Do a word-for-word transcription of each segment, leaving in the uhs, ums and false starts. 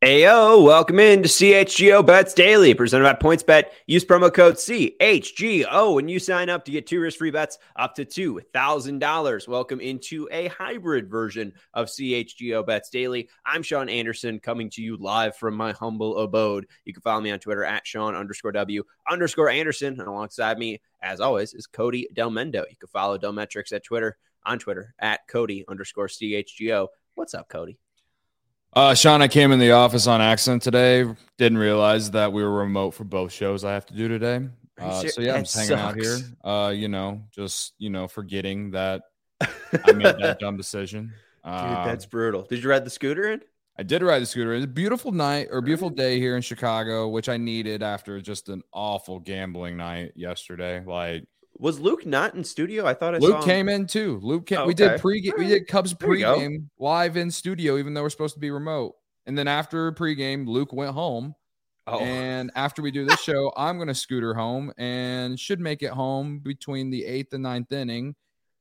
Heyo, welcome in to C H G O Bets Daily, presented by PointsBet. Use promo code C H G O when you sign up to get two risk-free bets up to two thousand dollars. Welcome into a hybrid version of C H G O Bets Daily. I'm Sean Anderson, coming to you live from my humble abode. You can follow me on Twitter at Sean underscore W underscore Anderson. And alongside me, as always, is Cody Delmendo. You can follow Delmetrics at Twitter, on Twitter, at Cody underscore C H G O. What's up, Cody? Uh, Sean, I came in the office on accident today. Didn't realize that we were remote for both shows I have to do today. Uh, so, yeah, I'm just hanging out here, uh, you know, just, you know, forgetting that I made that dumb decision. Uh, Dude, that's brutal. Did you ride the scooter in? I did ride the scooter. It was a beautiful night or beautiful day here in Chicago, which I needed after just an awful gambling night yesterday. Like, was Luke not in studio? I thought I Luke saw him. came in too. Luke came. Oh, okay. We did pre. We did Cubs There you go. pregame live in studio, even though we're supposed to be remote. And then after pregame, Luke went home. Oh. And after we do this show, I'm going to scooter home and should make it home between the eighth and ninth inning.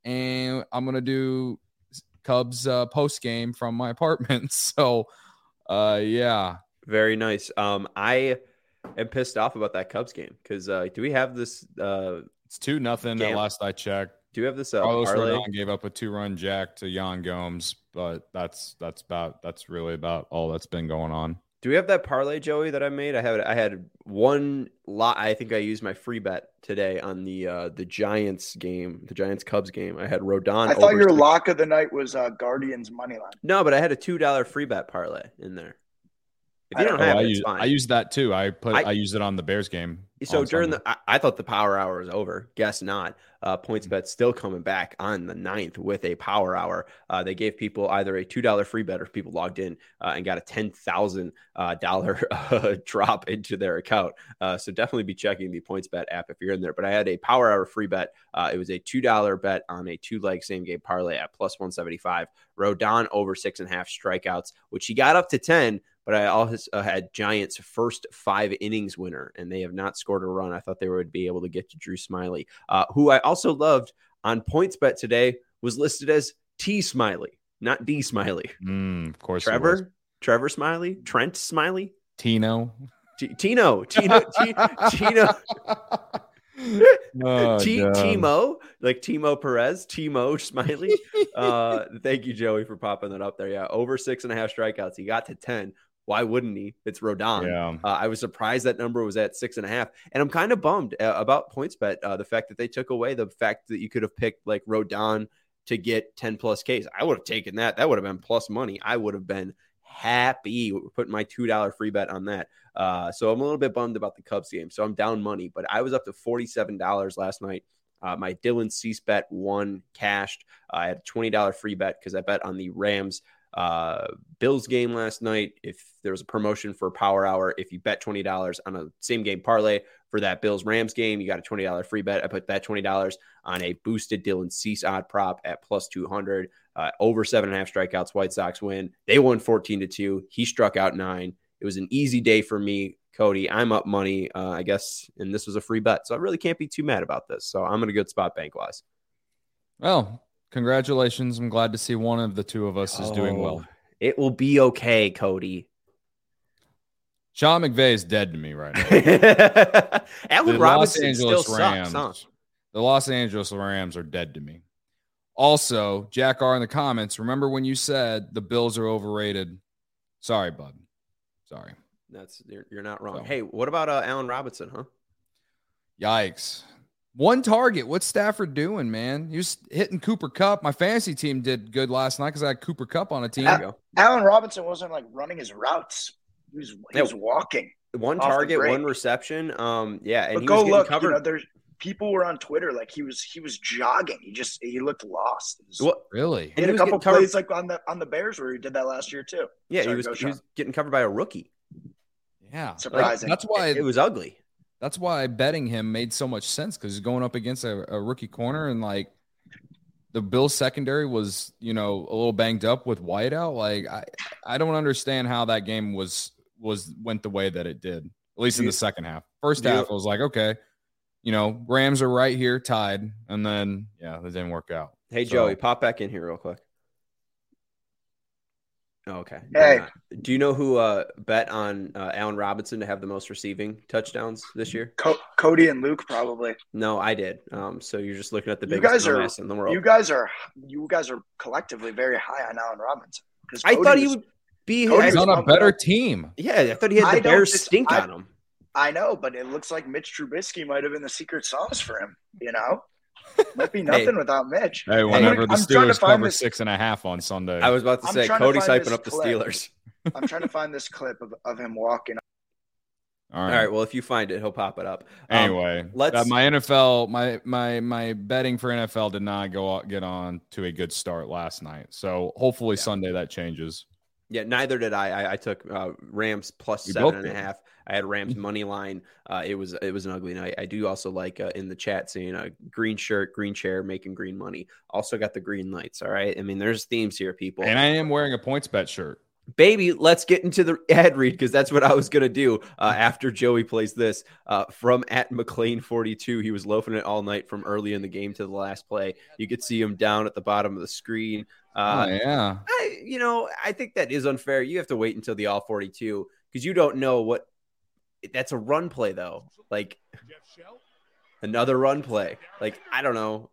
And I'm going to do Cubs uh, post game from my apartment. So, uh, yeah, very nice. Um, I am pissed off about that Cubs game because uh, do we have this? Uh, It's two nothing at last I checked. Do you have this? Uh, Carlos parlay? Rodon gave up a two-run jack to Yan Gomes, but that's that's about that's really about all that's been going on. Do we have that parlay, Joey, that I made? I have. I had one lot. I think I used my free bet today on the uh, the Giants game, the Giants Cubs game. I had Rodon. I thought your six. lock of the night was uh, Guardians money line. No, but I had a two dollar free bet parlay in there. If you don't oh, have I it, it's used, fine. I used that too. I put I, I, I used it on the Bears game. So during Sunday. the, I, I thought the power hour was over. Guess not. Uh, PointsBet still coming back on the ninth with a power hour. Uh, they gave people either a two dollar free bet or if people logged in uh, and got a ten thousand dollars uh, drop into their account. Uh, so definitely be checking the PointsBet app if you're in there. But I had a power hour free bet. Uh, it was a two dollar bet on a two leg same game parlay at plus one seventy-five. Rodon over six and a half strikeouts, which he got up to ten. But I also had Giants' first five innings winner, and they have not scored a run. I thought they would be able to get to Drew Smyly, uh, who I also loved on PointsBet today, was listed as T Smyly, not D Smyly. Mm, of course, Trevor, Trevor Smyly, Trent Smyly, Tino, T- Tino, Tino, T- Tino. oh, T- Timo, like Timo Perez, Timo Smiley. Uh, thank you, Joey, for popping that up there. Yeah, over six and a half strikeouts. He got to ten. Why wouldn't he? It's Rodon. Yeah. Uh, I was surprised that number was at six and a half. And I'm kind of bummed uh, about PointsBet, uh, the fact that they took away the fact that you could have picked like Rodon to get ten plus Ks. I would have taken that. That would have been plus money. I would have been happy putting my two dollar free bet on that. Uh, so I'm a little bit bummed about the Cubs game. So I'm down money, but I was up to forty-seven dollars last night. Uh, my Dylan Cease bet won cashed. Uh, I had a twenty dollar free bet because I bet on the Rams uh Bills game last night. If there was a promotion for a power hour, if you bet twenty dollars on a same game parlay for that Bills Rams game, you got a twenty dollar free bet. I put that twenty dollars on a boosted Dylan Cease odd prop at plus two hundred, uh, over seven and a half strikeouts. White Sox win. They won fourteen to two. He struck out nine. It was an easy day for me, Cody. I'm up money, uh, I guess, and this was a free bet, so I really can't be too mad about this. So I'm in a good spot bank wise. Well, congratulations. I'm glad to see one of the two of us is oh, doing well. It will be okay, Cody. Sean McVay is dead to me right now. Allen the Robinson Los Angeles still Rams, sucks, huh? The Los Angeles Rams are dead to me. Also, Jack R in the comments, remember when you said the Bills are overrated? Sorry, bud. Sorry. That's you're, you're not wrong. So, hey, what about uh, Allen Robinson, huh? Yikes. One target. What's Stafford doing, man? He was hitting Cooper Kupp. My fantasy team did good last night because I had Cooper Kupp on a team. Al- Allen Robinson wasn't like running his routes. He was he yeah. was walking. One target, one reception. Um, yeah, and but he go was getting look. covered. You know, there's people were on Twitter like he was he was jogging. He just he looked lost. Was, what really? He had a couple plays like on the on the Bears where he did that last year too. Yeah, Sorry, he was he was getting covered by a rookie. Yeah, surprising. Like, that's why it, it was ugly. That's why betting him made so much sense because he's going up against a, a rookie corner and like the Bills secondary was, you know, a little banged up with Whiteout. Like I, I don't understand how that game was was went the way that it did. At least in the second half. First half, I was like, okay, you know, Rams are right here, tied, and then yeah, that didn't work out. Hey so, Joey, pop back in here real quick. Oh, okay. Hey. Do you know who uh, bet on uh, Allen Robinson to have the most receiving touchdowns this year? Co- Cody and Luke probably. No, I did. Um, so you're just looking at the You biggest guys are dumbass in the world. you guys are you guys are collectively very high on Allen Robinson. I Cody thought he was- would be. Cody He's was on a pumping better up. team. Yeah, I thought he had I the don't Bears dis- stink I- on him. I know, but it looks like Mitch Trubisky might have been the secret sauce for him. You know, might be nothing Hey. without Mitch. Hey, whenever the I'm trying to Steelers find cover this- six and a half on Sunday. I was about to I'm say trying to Cody's find hyping this up the clip. Steelers. I'm trying to find this clip of, of him walking. All All right. right. Well, if you find it, he'll pop it up. Um, Anyway, let's- uh, my N F L, my my my betting for N F L did not go out, get on to a good start last night. So hopefully Sunday that changes. Yeah, neither did I. I, I took uh, Rams plus We seven both and a did. half. I had Rams money line. Uh, it was it was an ugly night. I do also like uh, in the chat saying a uh, green shirt, green chair, making green money. Also got the green lights. All right. I mean, there's themes here, people. And I am wearing a points bet shirt. Baby, let's get into the ad read because that's what I was going to do uh, after Joey plays this. Uh, from at McLean forty-two, he was loafing it all night from early in the game to the last play. You could see him down at the bottom of the screen. Uh, oh yeah. I, you know, I think that is unfair. You have to wait until the all forty-two because you don't know what that's a run play, though. Like another run play. Like, I don't know.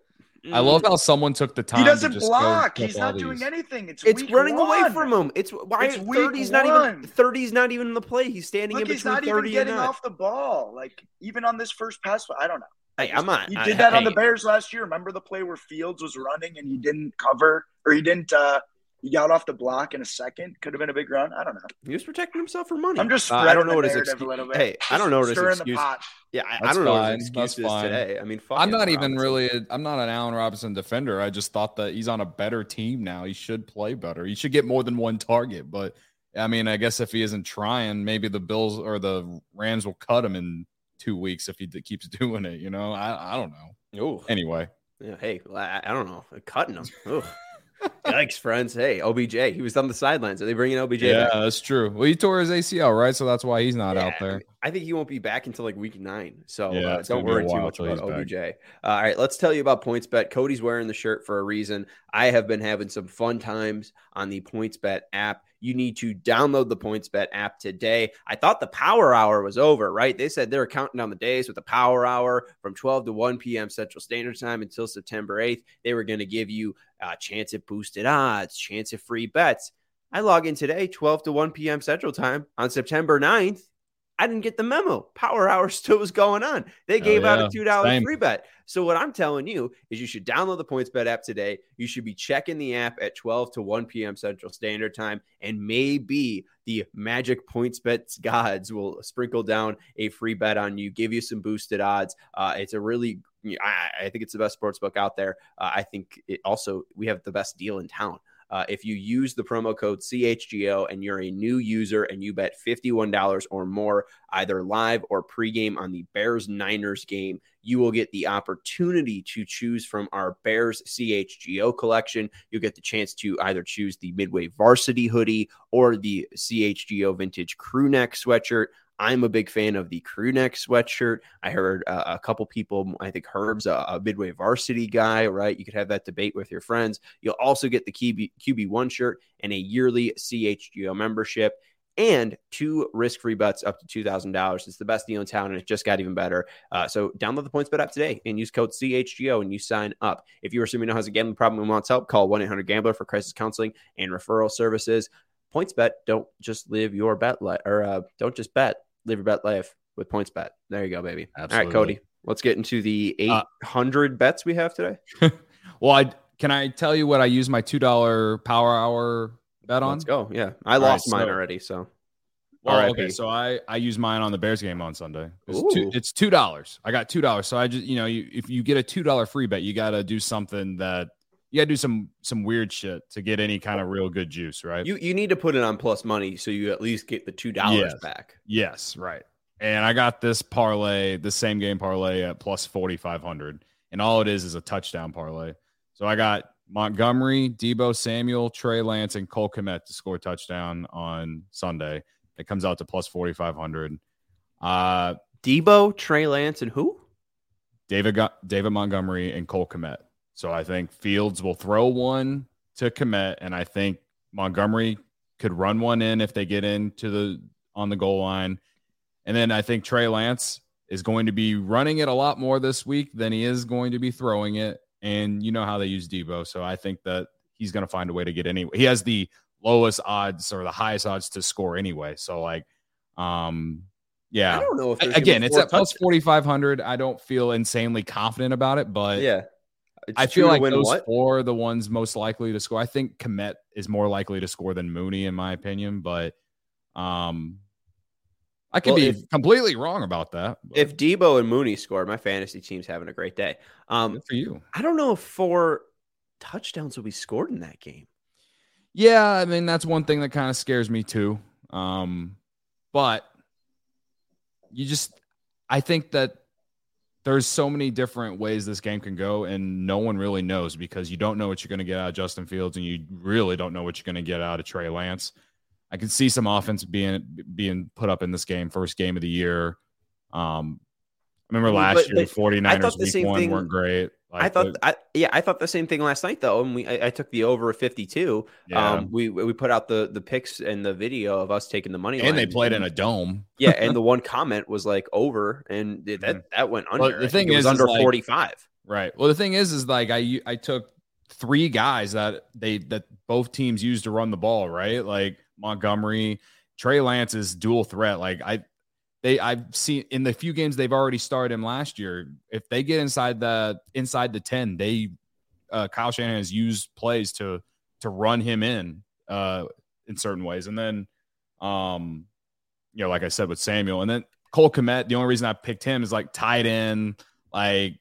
I love how someone took the time. He doesn't to just block. go He's flip all not doing these. anything. It's It's week running one. away from him. It's why It's week thirty's not one. even thirty's not even in the play. He's standing Look, in he's between not even thirty getting and not. off the ball. Like even on this first pass, I don't know. Hey, I'm not. He I- did that on hey, the Bears last year. Remember the play where Fields was running and he didn't cover, or he didn't. uh He got off the block in a second. Could have been a big run. I don't know. He was protecting himself for money. I'm just Uh, spreading I don't know the what his narrative excuse. a little bit. Hey, I don't know what his Stirring the excuse. pot. Yeah, I, I That's don't know what fine. his That's excuse is fine. today. I mean, fuck I'm Allen not even Robinson. really. I'm not an Allen Robinson defender. I just thought that he's on a better team now. He should play better. He should get more than one target. But I mean, I guess if he isn't trying, maybe the Bills or the Rams will cut him in two weeks if he d- keeps doing it. You know, I I don't know. Oh, Anyway, yeah, hey, I, I don't know. Cutting him. Ugh. Yikes, friends. Hey, O B J. He was on the sidelines. Are they bringing O B J yeah, back? that's true. Well, he tore his A C L, right? So that's why he's not out Yeah, there. I think he won't be back until like week nine. So Yeah, uh, it's gonna don't be a worry too while much till about he's back. O B J. Uh, all right, let's tell you about PointsBet. Cody's wearing the shirt for a reason. I have been having some fun times on the PointsBet app. You need to download the PointsBet app today. I thought the power hour was over, right? They said they were counting down the days with the power hour from twelve to one p.m. Central Standard Time until September eighth. They were going to give you a chance at boosted odds, chance at free bets. I log in today, twelve to one p.m. Central Time on September ninth. I didn't get the memo. Power hour still was going on. They gave Oh, out yeah. a two dollars Same. free bet. So what I'm telling you is you should download the PointsBet app today. You should be checking the app at twelve to one p.m. Central Standard Time, and maybe the magic PointsBet gods will sprinkle down a free bet on you, give you some boosted odds. Uh, it's a really, I, I think it's the best sports book out there. Uh, I think it also, we have the best deal in town. Uh, if you use the promo code C H G O and you're a new user and you bet fifty-one dollars or more, either live or pregame on the Bears-Niners game, you will get the opportunity to choose from our Bears C H G O collection. You'll get the chance to either choose the Midway Varsity hoodie or the C H G O Vintage Crew Neck sweatshirt. I'm a big fan of the crew neck sweatshirt. I heard uh, a couple people, I think Herb's a, a Midway Varsity guy, right? You could have that debate with your friends. You'll also get the Q B, Q B one shirt and a yearly C H G O membership and two risk-free bets up to two thousand dollars. It's the best deal in town, and it just got even better. Uh, so download the PointsBet app today and use code C H G O and you sign up. If you or someone has a gambling problem and wants help, call one eight hundred gambler for crisis counseling and referral services. PointsBet, don't just live your bet life, or uh, don't just bet. Live your bet life with PointsBet. There you go, baby. Absolutely. All right, Cody, let's get into the eight hundred uh, bets we have today. Well, I can I tell you what I use my two dollar power hour bet on? Let's go. Yeah, I All lost right, mine so- already. So, Well, R I P. okay, so I I use mine on the Bears game on Sunday. It's Ooh. two, it's two dollars. I got two dollars. So I just you know you, if you get a two dollar free bet, you got to do something that you got to do some some weird shit to get any kind of real good juice, right? you you need to put it on plus money so you at least get the two dollars Yes. back. Yes, right. And I got this parlay, the same game parlay at plus forty-five hundred. And all it is is a touchdown parlay. So I got Montgomery, Debo Samuel, Trey Lance, and Cole Kmet to score a touchdown on Sunday. It comes out to plus forty-five hundred. Uh, Debo, Trey Lance, and who? David, got, David Montgomery and Cole Kmet. So I think Fields will throw one to Kmet, and I think Montgomery could run one in if they get into the on the goal line. And then I think Trey Lance is going to be running it a lot more this week than he is going to be throwing it. And you know how they use Debo. So I think that he's going to find a way to get anyway. He has the lowest odds or the highest odds to score anyway. So like, um, yeah, I don't know if again, it's at plus forty-five hundred. I don't feel insanely confident about it, but yeah, I feel like those what? four are the ones most likely to score. I think Kmet is more likely to score than Mooney, in my opinion, but um, I could well, be if, completely wrong about that. But. If Debo and Mooney score, my fantasy team's having a great day. Um, Good for you. I don't know if four touchdowns will be scored in that game. Yeah, I mean, that's one thing that kind of scares me too. Um, but you just, I think that there's so many different ways this game can go, and no one really knows because you don't know what you're going to get out of Justin Fields, and you really don't know what you're going to get out of Trey Lance. I can see some offense being being put up in this game, first game of the year. Um, I remember last but, year, but the 49ers week one thing, weren't great. Like, I thought, I, yeah, I thought the same thing last night though, and we I, I took the over of fifty-two. Yeah. Um, we we put out the the pics and the video of us taking the money line, and they played and, in a dome. Yeah, and the one comment was like over, and that mm-hmm. that went under. Well, the thing is, it was under is like, forty-five. Right. Well, the thing is, is like I I took three guys that they that both teams used to run the ball. Right, like Montgomery, Trey Lance is dual threat. Like I. They, I've seen in the few games they've already started him last year. If they get inside the inside the ten, they uh, Kyle Shanahan has used plays to to run him in uh, in certain ways. And then, um, you know, like I said with Samuel, and then Cole Kmet. The only reason I picked him is like tight end, like.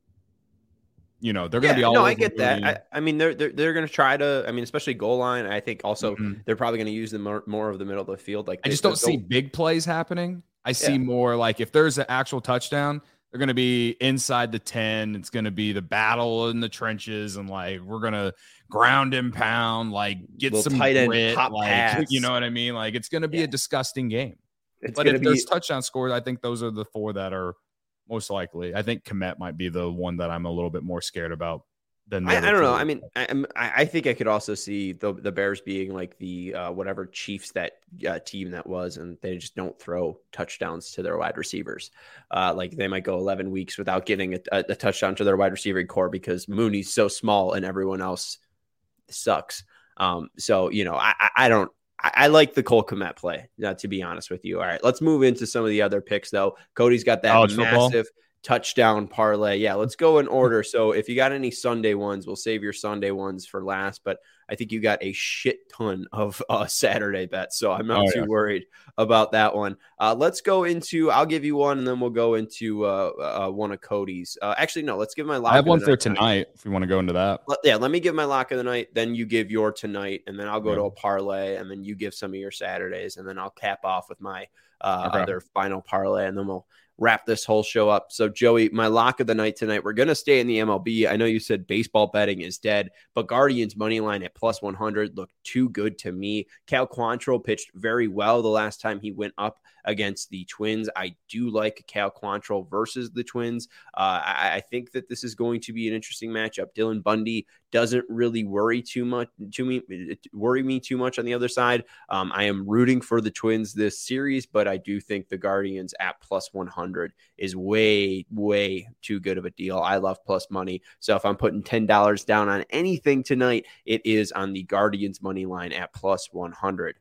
You know, they're going to yeah, be all no, over I get that. I, I mean, they're they're, they're going to try to. I mean, especially goal line. I think also mm-hmm. they're probably going to use the more, more of the middle of the field. Like I just don't see big plays happening. I see yeah. more like if there's an actual touchdown, they're going to be inside the ten. It's going to be the battle in the trenches, and like we're going to ground and pound, like get some tight end grit, pop like pass. You know what I mean? Like it's going to be yeah. a disgusting game. It's but if be... there's touchdown scores, I think those are the four that are most likely. I think Kmet might be the one that I'm a little bit more scared about. Than I, I don't know. I mean, I, I think I could also see the the Bears being like the uh, whatever Chiefs that uh, team that was, and they just don't throw touchdowns to their wide receivers. Uh, like they might go eleven weeks without getting a, a, a touchdown to their wide receiving core because Mooney's so small and everyone else sucks. Um, so you know, I, I don't. I, I like the Cole Kmet play. Uh, to be honest with you. All right, let's move into some of the other picks though. Cody's got that College massive. Football. Touchdown parlay. Yeah, let's go in order. So if you got any Sunday ones, we'll save your Sunday ones for last. But I think you got a shit ton of uh, Saturday bets. So I'm not oh, too yeah. worried about that one. Uh, let's go into, I'll give you one and then we'll go into uh, uh, one of Cody's. Uh, actually, no, let's give my lock. I have one for tonight, tonight if we want to go into that. Let, yeah, let me give my lock of the night. Then you give your tonight and then I'll go yeah. to a parlay and then you give some of your Saturdays and then I'll cap off with my uh, okay. other final parlay and then we'll wrap this whole show up. So Joey, my lock of the night tonight, we're going to stay in the M L B. I know you said baseball betting is dead, but Guardians money line at plus one hundred looked too good to me. Cal Quantrill pitched very well the last time he went up against the Twins. I do like Cal Quantrill versus the Twins. Uh, I, I think that this is going to be an interesting matchup. Dylan Bundy doesn't really worry too much to me, worry me too much on the other side. Um, I am rooting for the Twins this series, but I do think the Guardians at plus one hundred is way, way too good of a deal. I love plus money. So if I'm putting ten dollars down on anything tonight, it is on the Guardians money line at plus one hundred.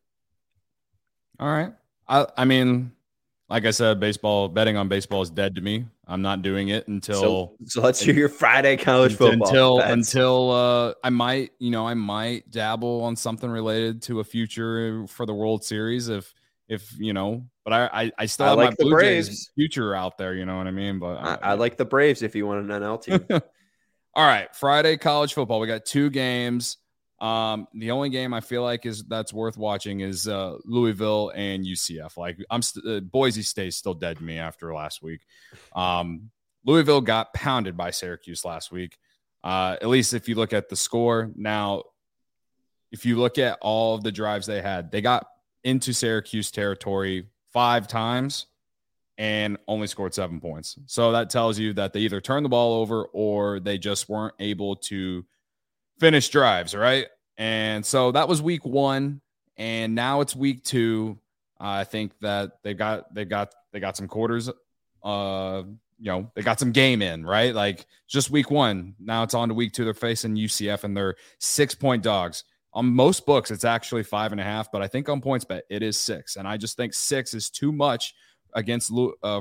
All right. I, I mean, like I said, baseball betting on baseball is dead to me. I'm not doing it until. So, so let's do your Friday college football until bets. until uh, I might, you know, I might dabble on something related to a future for the World Series if if you know. But I I, I still I have like my the Blue Braves Jays future out there. You know what I mean? But I, I like the Braves if you want an N L team. All right, Friday college football. We got two games. Um, the only game I feel like is that's worth watching is uh, Louisville and U C F. Like I'm st- uh, Boise State still dead to me after last week. Um, Louisville got pounded by Syracuse last week. Uh, at least if you look at the score. Now, if you look at all of the drives they had, they got into Syracuse territory five times and only scored seven points. So that tells you that they either turned the ball over or they just weren't able to finish drives, right? And so that was week one, and now it's week two. Uh, I think that they got they got they got some quarters. Uh, you know, they got some game in, right? Like just week one. Now it's on to week two. They're facing U C F, and they're six point dogs. On most books, it's actually five and a half, but I think on PointsBet it is six, and I just think six is too much against uh,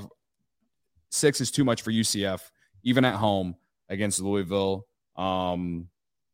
six is too much for U C F, even at home against Louisville. Um,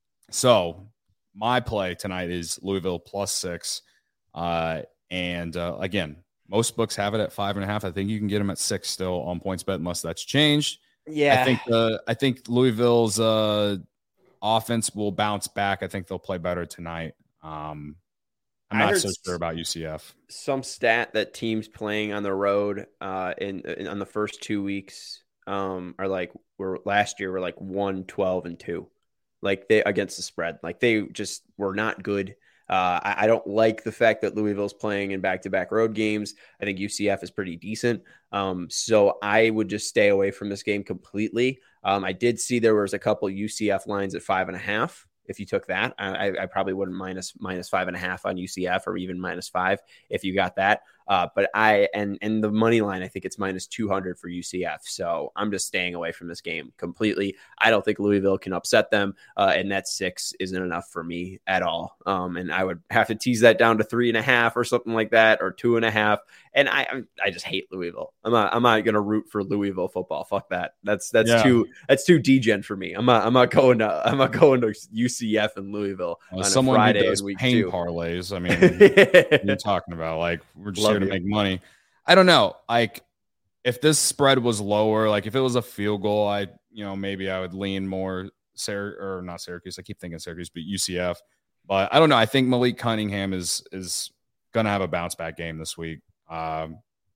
so my play tonight is Louisville plus six, uh, and uh, again, most books have it at five and a half. I think you can get them at six still on PointsBet, unless that's changed. Yeah, I think uh, I think Louisville's uh, offense will bounce back. I think they'll play better tonight. Um, I'm not so sure about U C F. Some stat that teams playing on the road uh, in, in on the first two weeks um, are like were last year were like one, twelve, and two, like they against the spread. Like they just were not good. Uh, I, I don't like the fact that Louisville's playing in back-to-back road games. I think U C F is pretty decent. Um, so I would just stay away from this game completely. Um, I did see there was a couple U C F lines at five and a half. If you took that, I, I probably wouldn't minus minus five and a half on U C F, or even minus five if you got that. Uh, but I and and the money line, I think it's minus two hundred for U C F. So I'm just staying away from this game completely. I don't think Louisville can upset them, uh, and that six isn't enough for me at all. Um, and I would have to tease that down to three and a half or something like that, or two and a half. And I I just hate Louisville. I'm not I'm not gonna root for Louisville football. Fuck that. That's that's yeah. too that's too degen for me. I'm not I'm not going to I'm not going to U C F and Louisville well, on someone a Friday who does in week pain two. parlays. I mean, what you're talking about, like we're just Love here to you. make money. I don't know. Like if this spread was lower, like if it was a field goal, I you know maybe I would lean more Syr or not Syracuse. I keep thinking Syracuse, but U C F. But I don't know. I think Malik Cunningham is is gonna have a bounce back game this week. Um,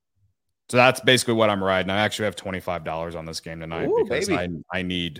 so that's basically what I'm riding. I actually have twenty-five dollars on this game tonight Ooh, because baby. I I need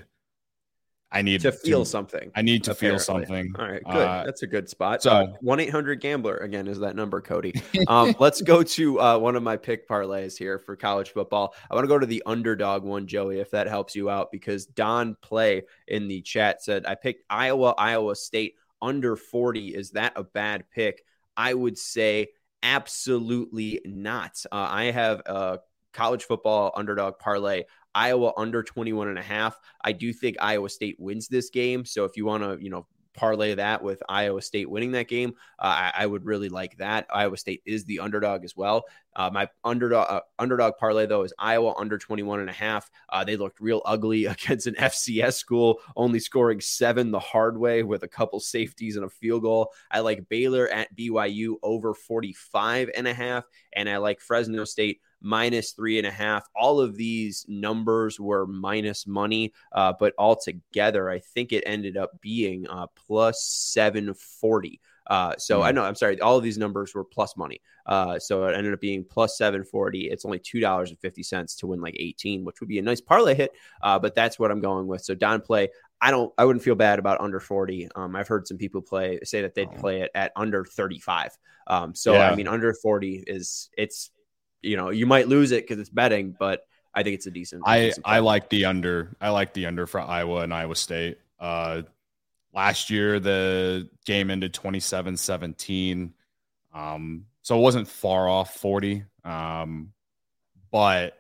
I need to feel to, something. I need to apparently. feel something. All right, good. Uh, That's a good spot. So one eight hundred gambler again is that number, Cody. Um, let's go to uh, one of my pick parlays here for college football. I want to go to the underdog one, Joey, if that helps you out, because Don Play in the chat said I picked Iowa, Iowa State under forty. Is that a bad pick? I would say absolutely not. Uh, I have a college football underdog parlay. Iowa under twenty-one and a half. I do think Iowa State wins this game. So if you want to, you know, parlay that with Iowa State winning that game, uh, I, I would really like that. Iowa State is the underdog as well. Uh, my underdog uh, underdog parlay, though, is Iowa under twenty-one and a half. Uh, they looked real ugly against an F C S school, only scoring seven the hard way with a couple safeties and a field goal. I like Baylor at B Y U over forty-five and a half. And I like Fresno State minus three and a half. All of these numbers were minus money, uh, but altogether, I think it ended up being uh, plus seven forty. Uh, so mm-hmm. I know, I'm sorry, all of these numbers were plus money. Uh, so it ended up being plus seven forty. It's only two dollars and fifty cents to win like eighteen, which would be a nice parlay hit. Uh, but that's what I'm going with. So Don Play, I don't, I wouldn't feel bad about under forty. Um, I've heard some people play, say that they'd play it at under thirty-five. Um, so yeah. I mean, under forty is it's, you know, you might lose it because it's betting, but I think it's a decent. I, decent I like the under. I like the under for Iowa and Iowa State. Uh, last year, the game ended twenty-seven seventeen. Um, so it wasn't far off forty. Um, but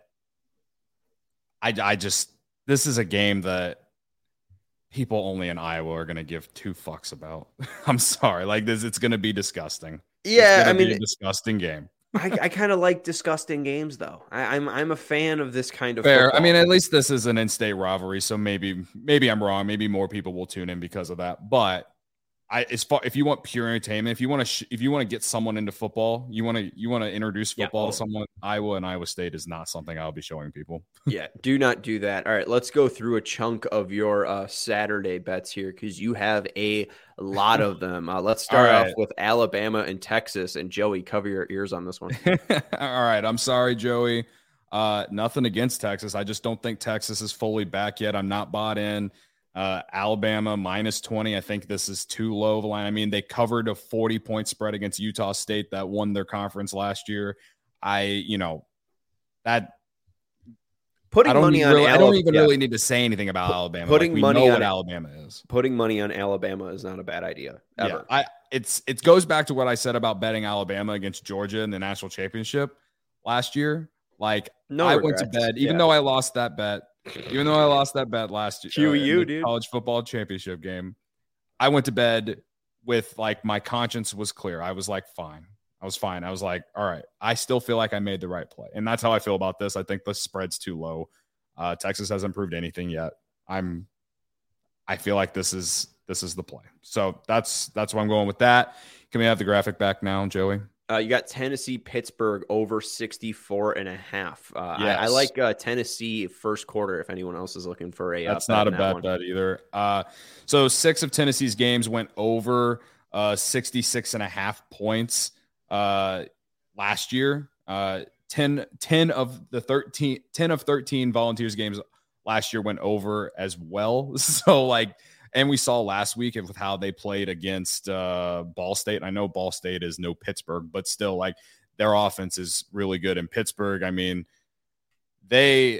I, I just, this is a game that people only in Iowa are going to give two fucks about. I'm sorry. Like this, it's going to be disgusting. Yeah. I mean, be a disgusting game. I, I kind of like disgusting games, though. I, I'm I'm a fan of this kind of fair. football. I mean, at least this is an in-state rivalry, so maybe maybe I'm wrong. Maybe more people will tune in because of that. But I, as far if you want pure entertainment, if you want to sh- if you want to get someone into football, you want to you want to introduce football yeah. to someone. Iowa and Iowa State is not something I'll be showing people. Yeah, do not do that. All right, let's go through a chunk of your uh, Saturday bets here because you have a lot of them. Uh, let's start right. off with Alabama and Texas. And Joey, cover your ears on this one. All right, I'm sorry, Joey. Uh, nothing against Texas. I just don't think Texas is fully back yet. I'm not bought in. Uh, Alabama minus twenty. I think this is too low of a line. I mean, they covered a forty point spread against Utah State that won their conference last year. I, you know, that putting I don't money on really, I Alabama, don't even yeah. really need to say anything about Alabama. Putting like, we money know on what it- Alabama is. Putting money on Alabama is not a bad idea ever. Yeah, I it's it goes back to what I said about betting Alabama against Georgia in the national championship last year. Like No I regrets. went to bed, even Yeah. though I lost that bet, even though I lost that bet last year, Q E U, in the dude. college football championship game. I went to bed with like my conscience was clear. I was like, fine. I was fine. I was like, all right, I still feel like I made the right play. And that's how I feel about this. I think the spread's too low. Uh, Texas hasn't proved anything yet. I'm, I feel like this is, this is the play. So that's, that's where I'm going with that. Can we have the graphic back now, Joey? Uh, you got Tennessee, Pittsburgh over sixty-four and a half. Uh, Yes. I, I like uh, Tennessee first quarter if anyone else is looking for a That's uh, not a bet in that bad one. bet either. Uh, so six of Tennessee's games went over uh, sixty-six and a half points uh, last year. Uh, ten, ten of the thirteen, ten of thirteen Volunteers games last year went over as well. So like, and we saw last week with how they played against uh, Ball State. I know Ball State is no Pittsburgh, but still like their offense is really good in Pittsburgh. I mean, they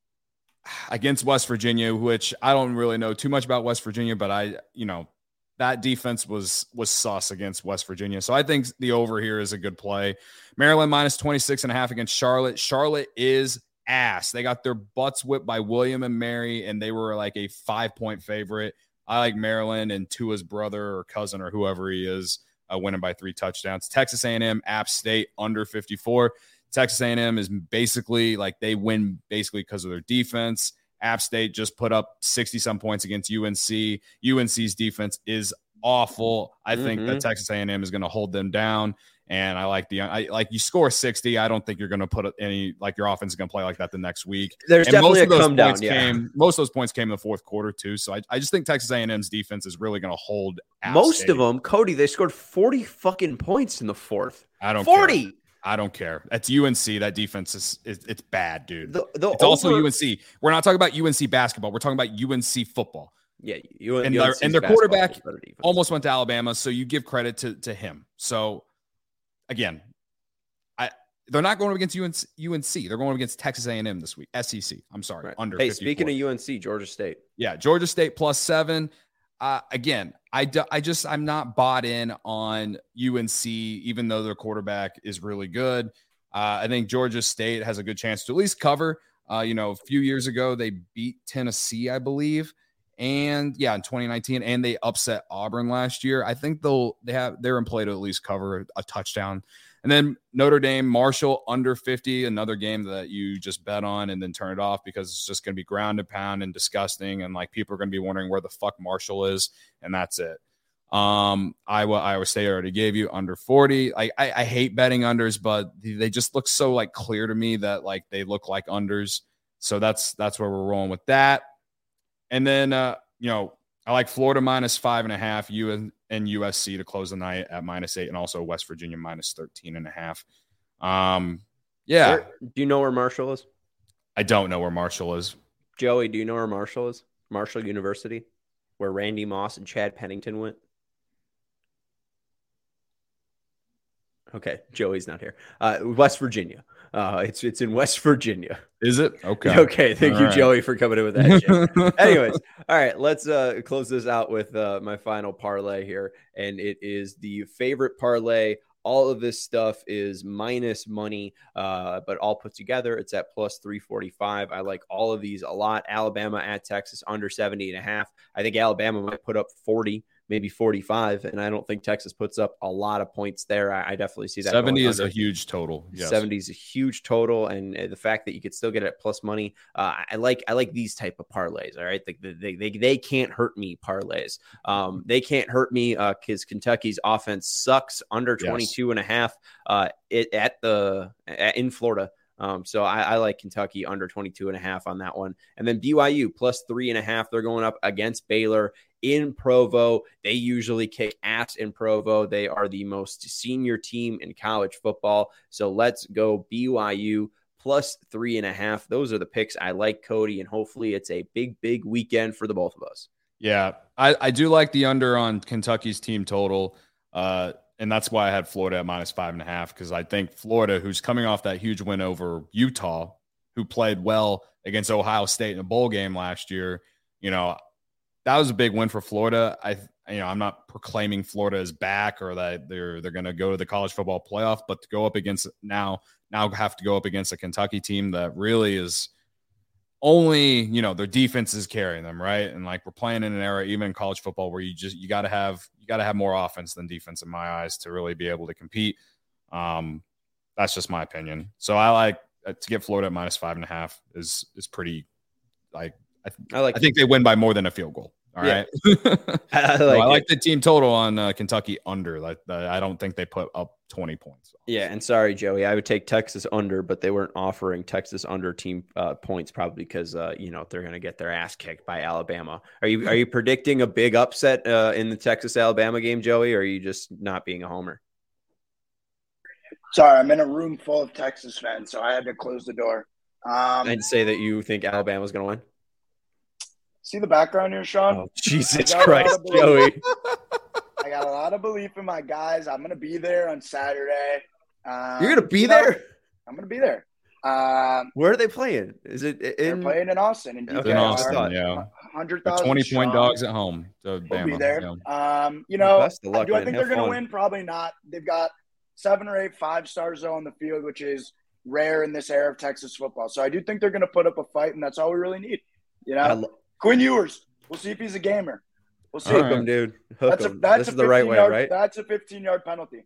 against West Virginia, which I don't really know too much about West Virginia, but I, you know, that defense was was sus against West Virginia. So I think the over here is a good play. Maryland minus twenty-six and a half against Charlotte. Charlotte is ass. They got their butts whipped by William and Mary, and they were like a five-point favorite. I like Maryland and Tua's brother or cousin or whoever he is uh, winning by three touchdowns. Texas A and M, App State under fifty-four. Texas A and M is basically like they win basically because of their defense. App State just put up sixty-some points against U N C. U N C's defense is awful. I think Mhm. that Texas A and M is going to hold them down. And I like the I like you score sixty. I don't think you're going to put any like your offense is going to play like that the next week. There's And definitely most a of those come down. points Yeah. came. Most of those points came in the fourth quarter too. So I, I just think Texas A and M's defense is really going to hold App Most State. of them, Cody, they scored forty fucking points in the fourth. I don't forty. care. I don't care. That's U N C. That defense is, is it's bad, dude. The, the It's also over- U N C. We're not talking about U N C basketball. We're talking about U N C football. Yeah, you And their, and their quarterback almost went to Alabama, so you give credit to, to him. So, again, I they're not going up against U N C, U N C. They're going up against Texas A and M this week. S E C. I'm sorry. Right. Under Hey, fifty-four. speaking of U N C, Georgia State. Yeah, Georgia State plus seven. Uh, again, I, do, I just I'm not bought in on U N C, even though their quarterback is really good. Uh, I think Georgia State has a good chance to at least cover. Uh, you know, a few years ago they beat Tennessee, I believe, and yeah, in twenty nineteen, and they upset Auburn last year. I think they'll they have they're in play to at least cover a touchdown. And then Notre Dame, Marshall under fifty, another game that you just bet on and then turn it off because it's just going to be ground and pound and disgusting. And like people are going to be wondering where the fuck Marshall is. And that's it. Um, Iowa, Iowa State already gave you under forty. Like I, I hate betting unders, but they just look so like clear to me that like they look like unders. So that's, that's where we're rolling with that. And then, uh, you know, I like Florida minus five and a half, U and U S C to close the night at minus eight, and also West Virginia minus thirteen and a half. Um, yeah, Where- do you know where Marshall is? I don't know where Marshall is. Joey, do you know where Marshall is? Marshall University, where Randy Moss and Chad Pennington went. Okay, Joey's not here. Uh, West Virginia. Uh, it's it's in West Virginia. Is it? Okay. Okay, thank All you, right. Joey, for coming in with that shit. Anyways, all right, let's uh, close this out with uh, my final parlay here, and it is the favorite parlay. All of this stuff is minus money, uh, but all put together, it's at plus three forty-five. I like all of these a lot. Alabama at Texas under seventy and a half. I think Alabama might put up forty, maybe forty-five, and I don't think Texas puts up a lot of points there. I, I definitely see that. seventy going is under. a huge total. Yes. seventy is a huge total, and uh, the fact that you could still get it at plus money, uh, I like. I like these type of parlays. All right, they they they, they can't hurt me parlays. Um, they can't hurt me because uh, Kentucky's offense sucks. Under twenty-two and a half, uh, it at the at, in Florida. Um, so I, I like Kentucky under twenty-two and a half on that one, and then B Y U plus three and a half. They're going up against Baylor in Provo. They usually kick ass in Provo. They are the most senior team in college football. So let's go B Y U plus three and a half. Those are the picks I like, Cody, and hopefully it's a big, big weekend for the both of us. Yeah, I, I do like the under on Kentucky's team total. Uh, and that's why I had Florida at minus five and a half, because I think Florida, who's coming off that huge win over Utah, who played well against Ohio State in a bowl game last year. You know, that was a big win for Florida. I, you know, I'm not proclaiming Florida is back or that they're they're going to go to the college football playoff, but to go up against now, now have to go up against a Kentucky team that really is only, you know, their defense is carrying them, right? And like we're playing in an era, even in college football, where you just you got to have you got to have more offense than defense in my eyes to really be able to compete. Um, that's just my opinion. So I like uh, to get Florida at minus five and a half is is pretty like I, th- I like I think they win by more than a field goal. All yeah. right. I like, so I like the team total on uh, Kentucky under. Like I don't think they put up twenty points. Yeah, and sorry, Joey, I would take Texas under, but they weren't offering Texas under team uh, points probably because uh, you know they're going to get their ass kicked by Alabama. Are you are you predicting a big upset uh, in the Texas Alabama game, Joey, or are you just not being a homer? Sorry, I'm in a room full of Texas fans, so I had to close the door. Um, I'd say that you think Alabama's going to win. See the background here, Sean? Oh, Jesus Christ, Joey. I got a lot of belief in my guys. I'm going to be there on Saturday. Um, You're going to be you there? Know, I'm going to be there. Um, Where are they playing? Is it in? They're playing in Austin. In, in Austin, yeah. one hundred thousand twenty-point Sean. dogs at home. To We'll Bama. be there. Yeah. Um, you know, Best of luck, do I man. think Have they're going to fun. win? Probably not. They've got seven or eight five-stars though on the field, which is rare in this era of Texas football. So I do think they're going to put up a fight, and that's all we really need. You know, lo- Quinn Ewers. We'll see if he's a gamer. We'll see. Hook All right. him, dude. Hook That's a him. that's This a is the right way, yard, right? That's a fifteen-yard penalty.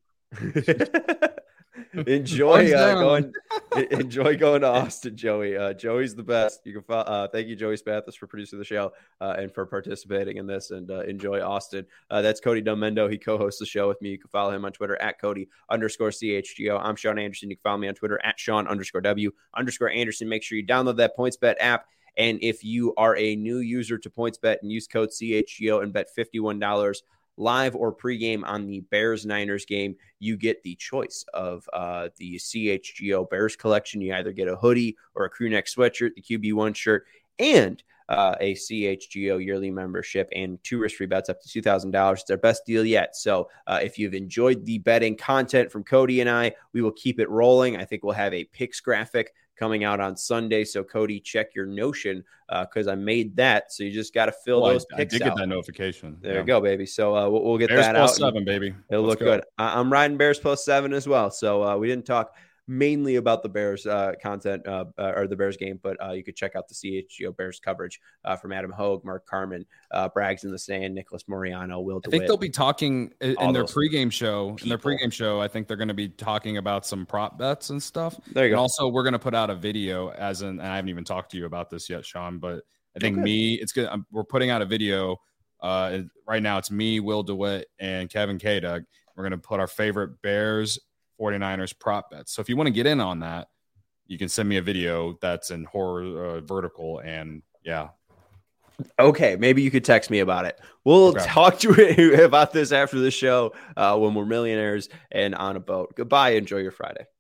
enjoy uh, down. going enjoy going to Austin, Joey. Uh, Joey's the best. You can follow, uh, thank you, Joey Spathis, for producing the show uh, and for participating in this. And uh, enjoy Austin. Uh, that's Cody Dumendo. He co-hosts the show with me. You can follow him on Twitter at Cody underscore C H G O. I'm Sean Anderson. You can follow me on Twitter at Sean underscore W underscore Anderson. Make sure you download that PointsBet app. And if you are a new user to PointsBet and use code C H G O and bet fifty-one dollars live or pregame on the Bears-Niners game, you get the choice of uh, the C H G O Bears collection. You either get a hoodie or a crew neck sweatshirt, the Q B one shirt, and uh, a C H G O yearly membership and two risk-free bets up to two thousand dollars. It's our best deal yet. So uh, if you've enjoyed the betting content from Cody and I, we will keep it rolling. I think we'll have a picks graphic coming out on Sunday. So Cody, check your Notion because uh, I made that. So you just got to fill Well, those I, picks I did out. get that notification. There yeah. you go, baby. So uh, we'll, we'll get Bears that plus out. seven, baby. It'll Let's look go. good. I, I'm riding Bears plus seven as well. So uh, we didn't talk mainly about the Bears uh, content uh, uh, or the Bears game, but uh, you could check out the C H G O Bears coverage uh, from Adam Hogue, Mark Carman, uh, Braggs in the Stand, Nicholas Moriano, Will I DeWitt. think they'll be talking in, All in their those pregame show. In their people. pregame show, I think they're going to be talking about some prop bets and stuff. There you And go. also, we're going to put out a video as in, and I haven't even talked to you about this yet, Sean, but I think Okay. me, it's good. I'm, we're putting out a video. Uh, right now, it's me, Will DeWitt, and Kevin K. We're going to put our favorite Bears, forty-niners prop bets. So if you want to get in on that, you can send me a video that's in horror uh, vertical. And yeah, Okay, maybe you could text me about it. We'll Okay. talk to you about this after the show uh, when we're millionaires and on a boat. Goodbye. Enjoy your Friday.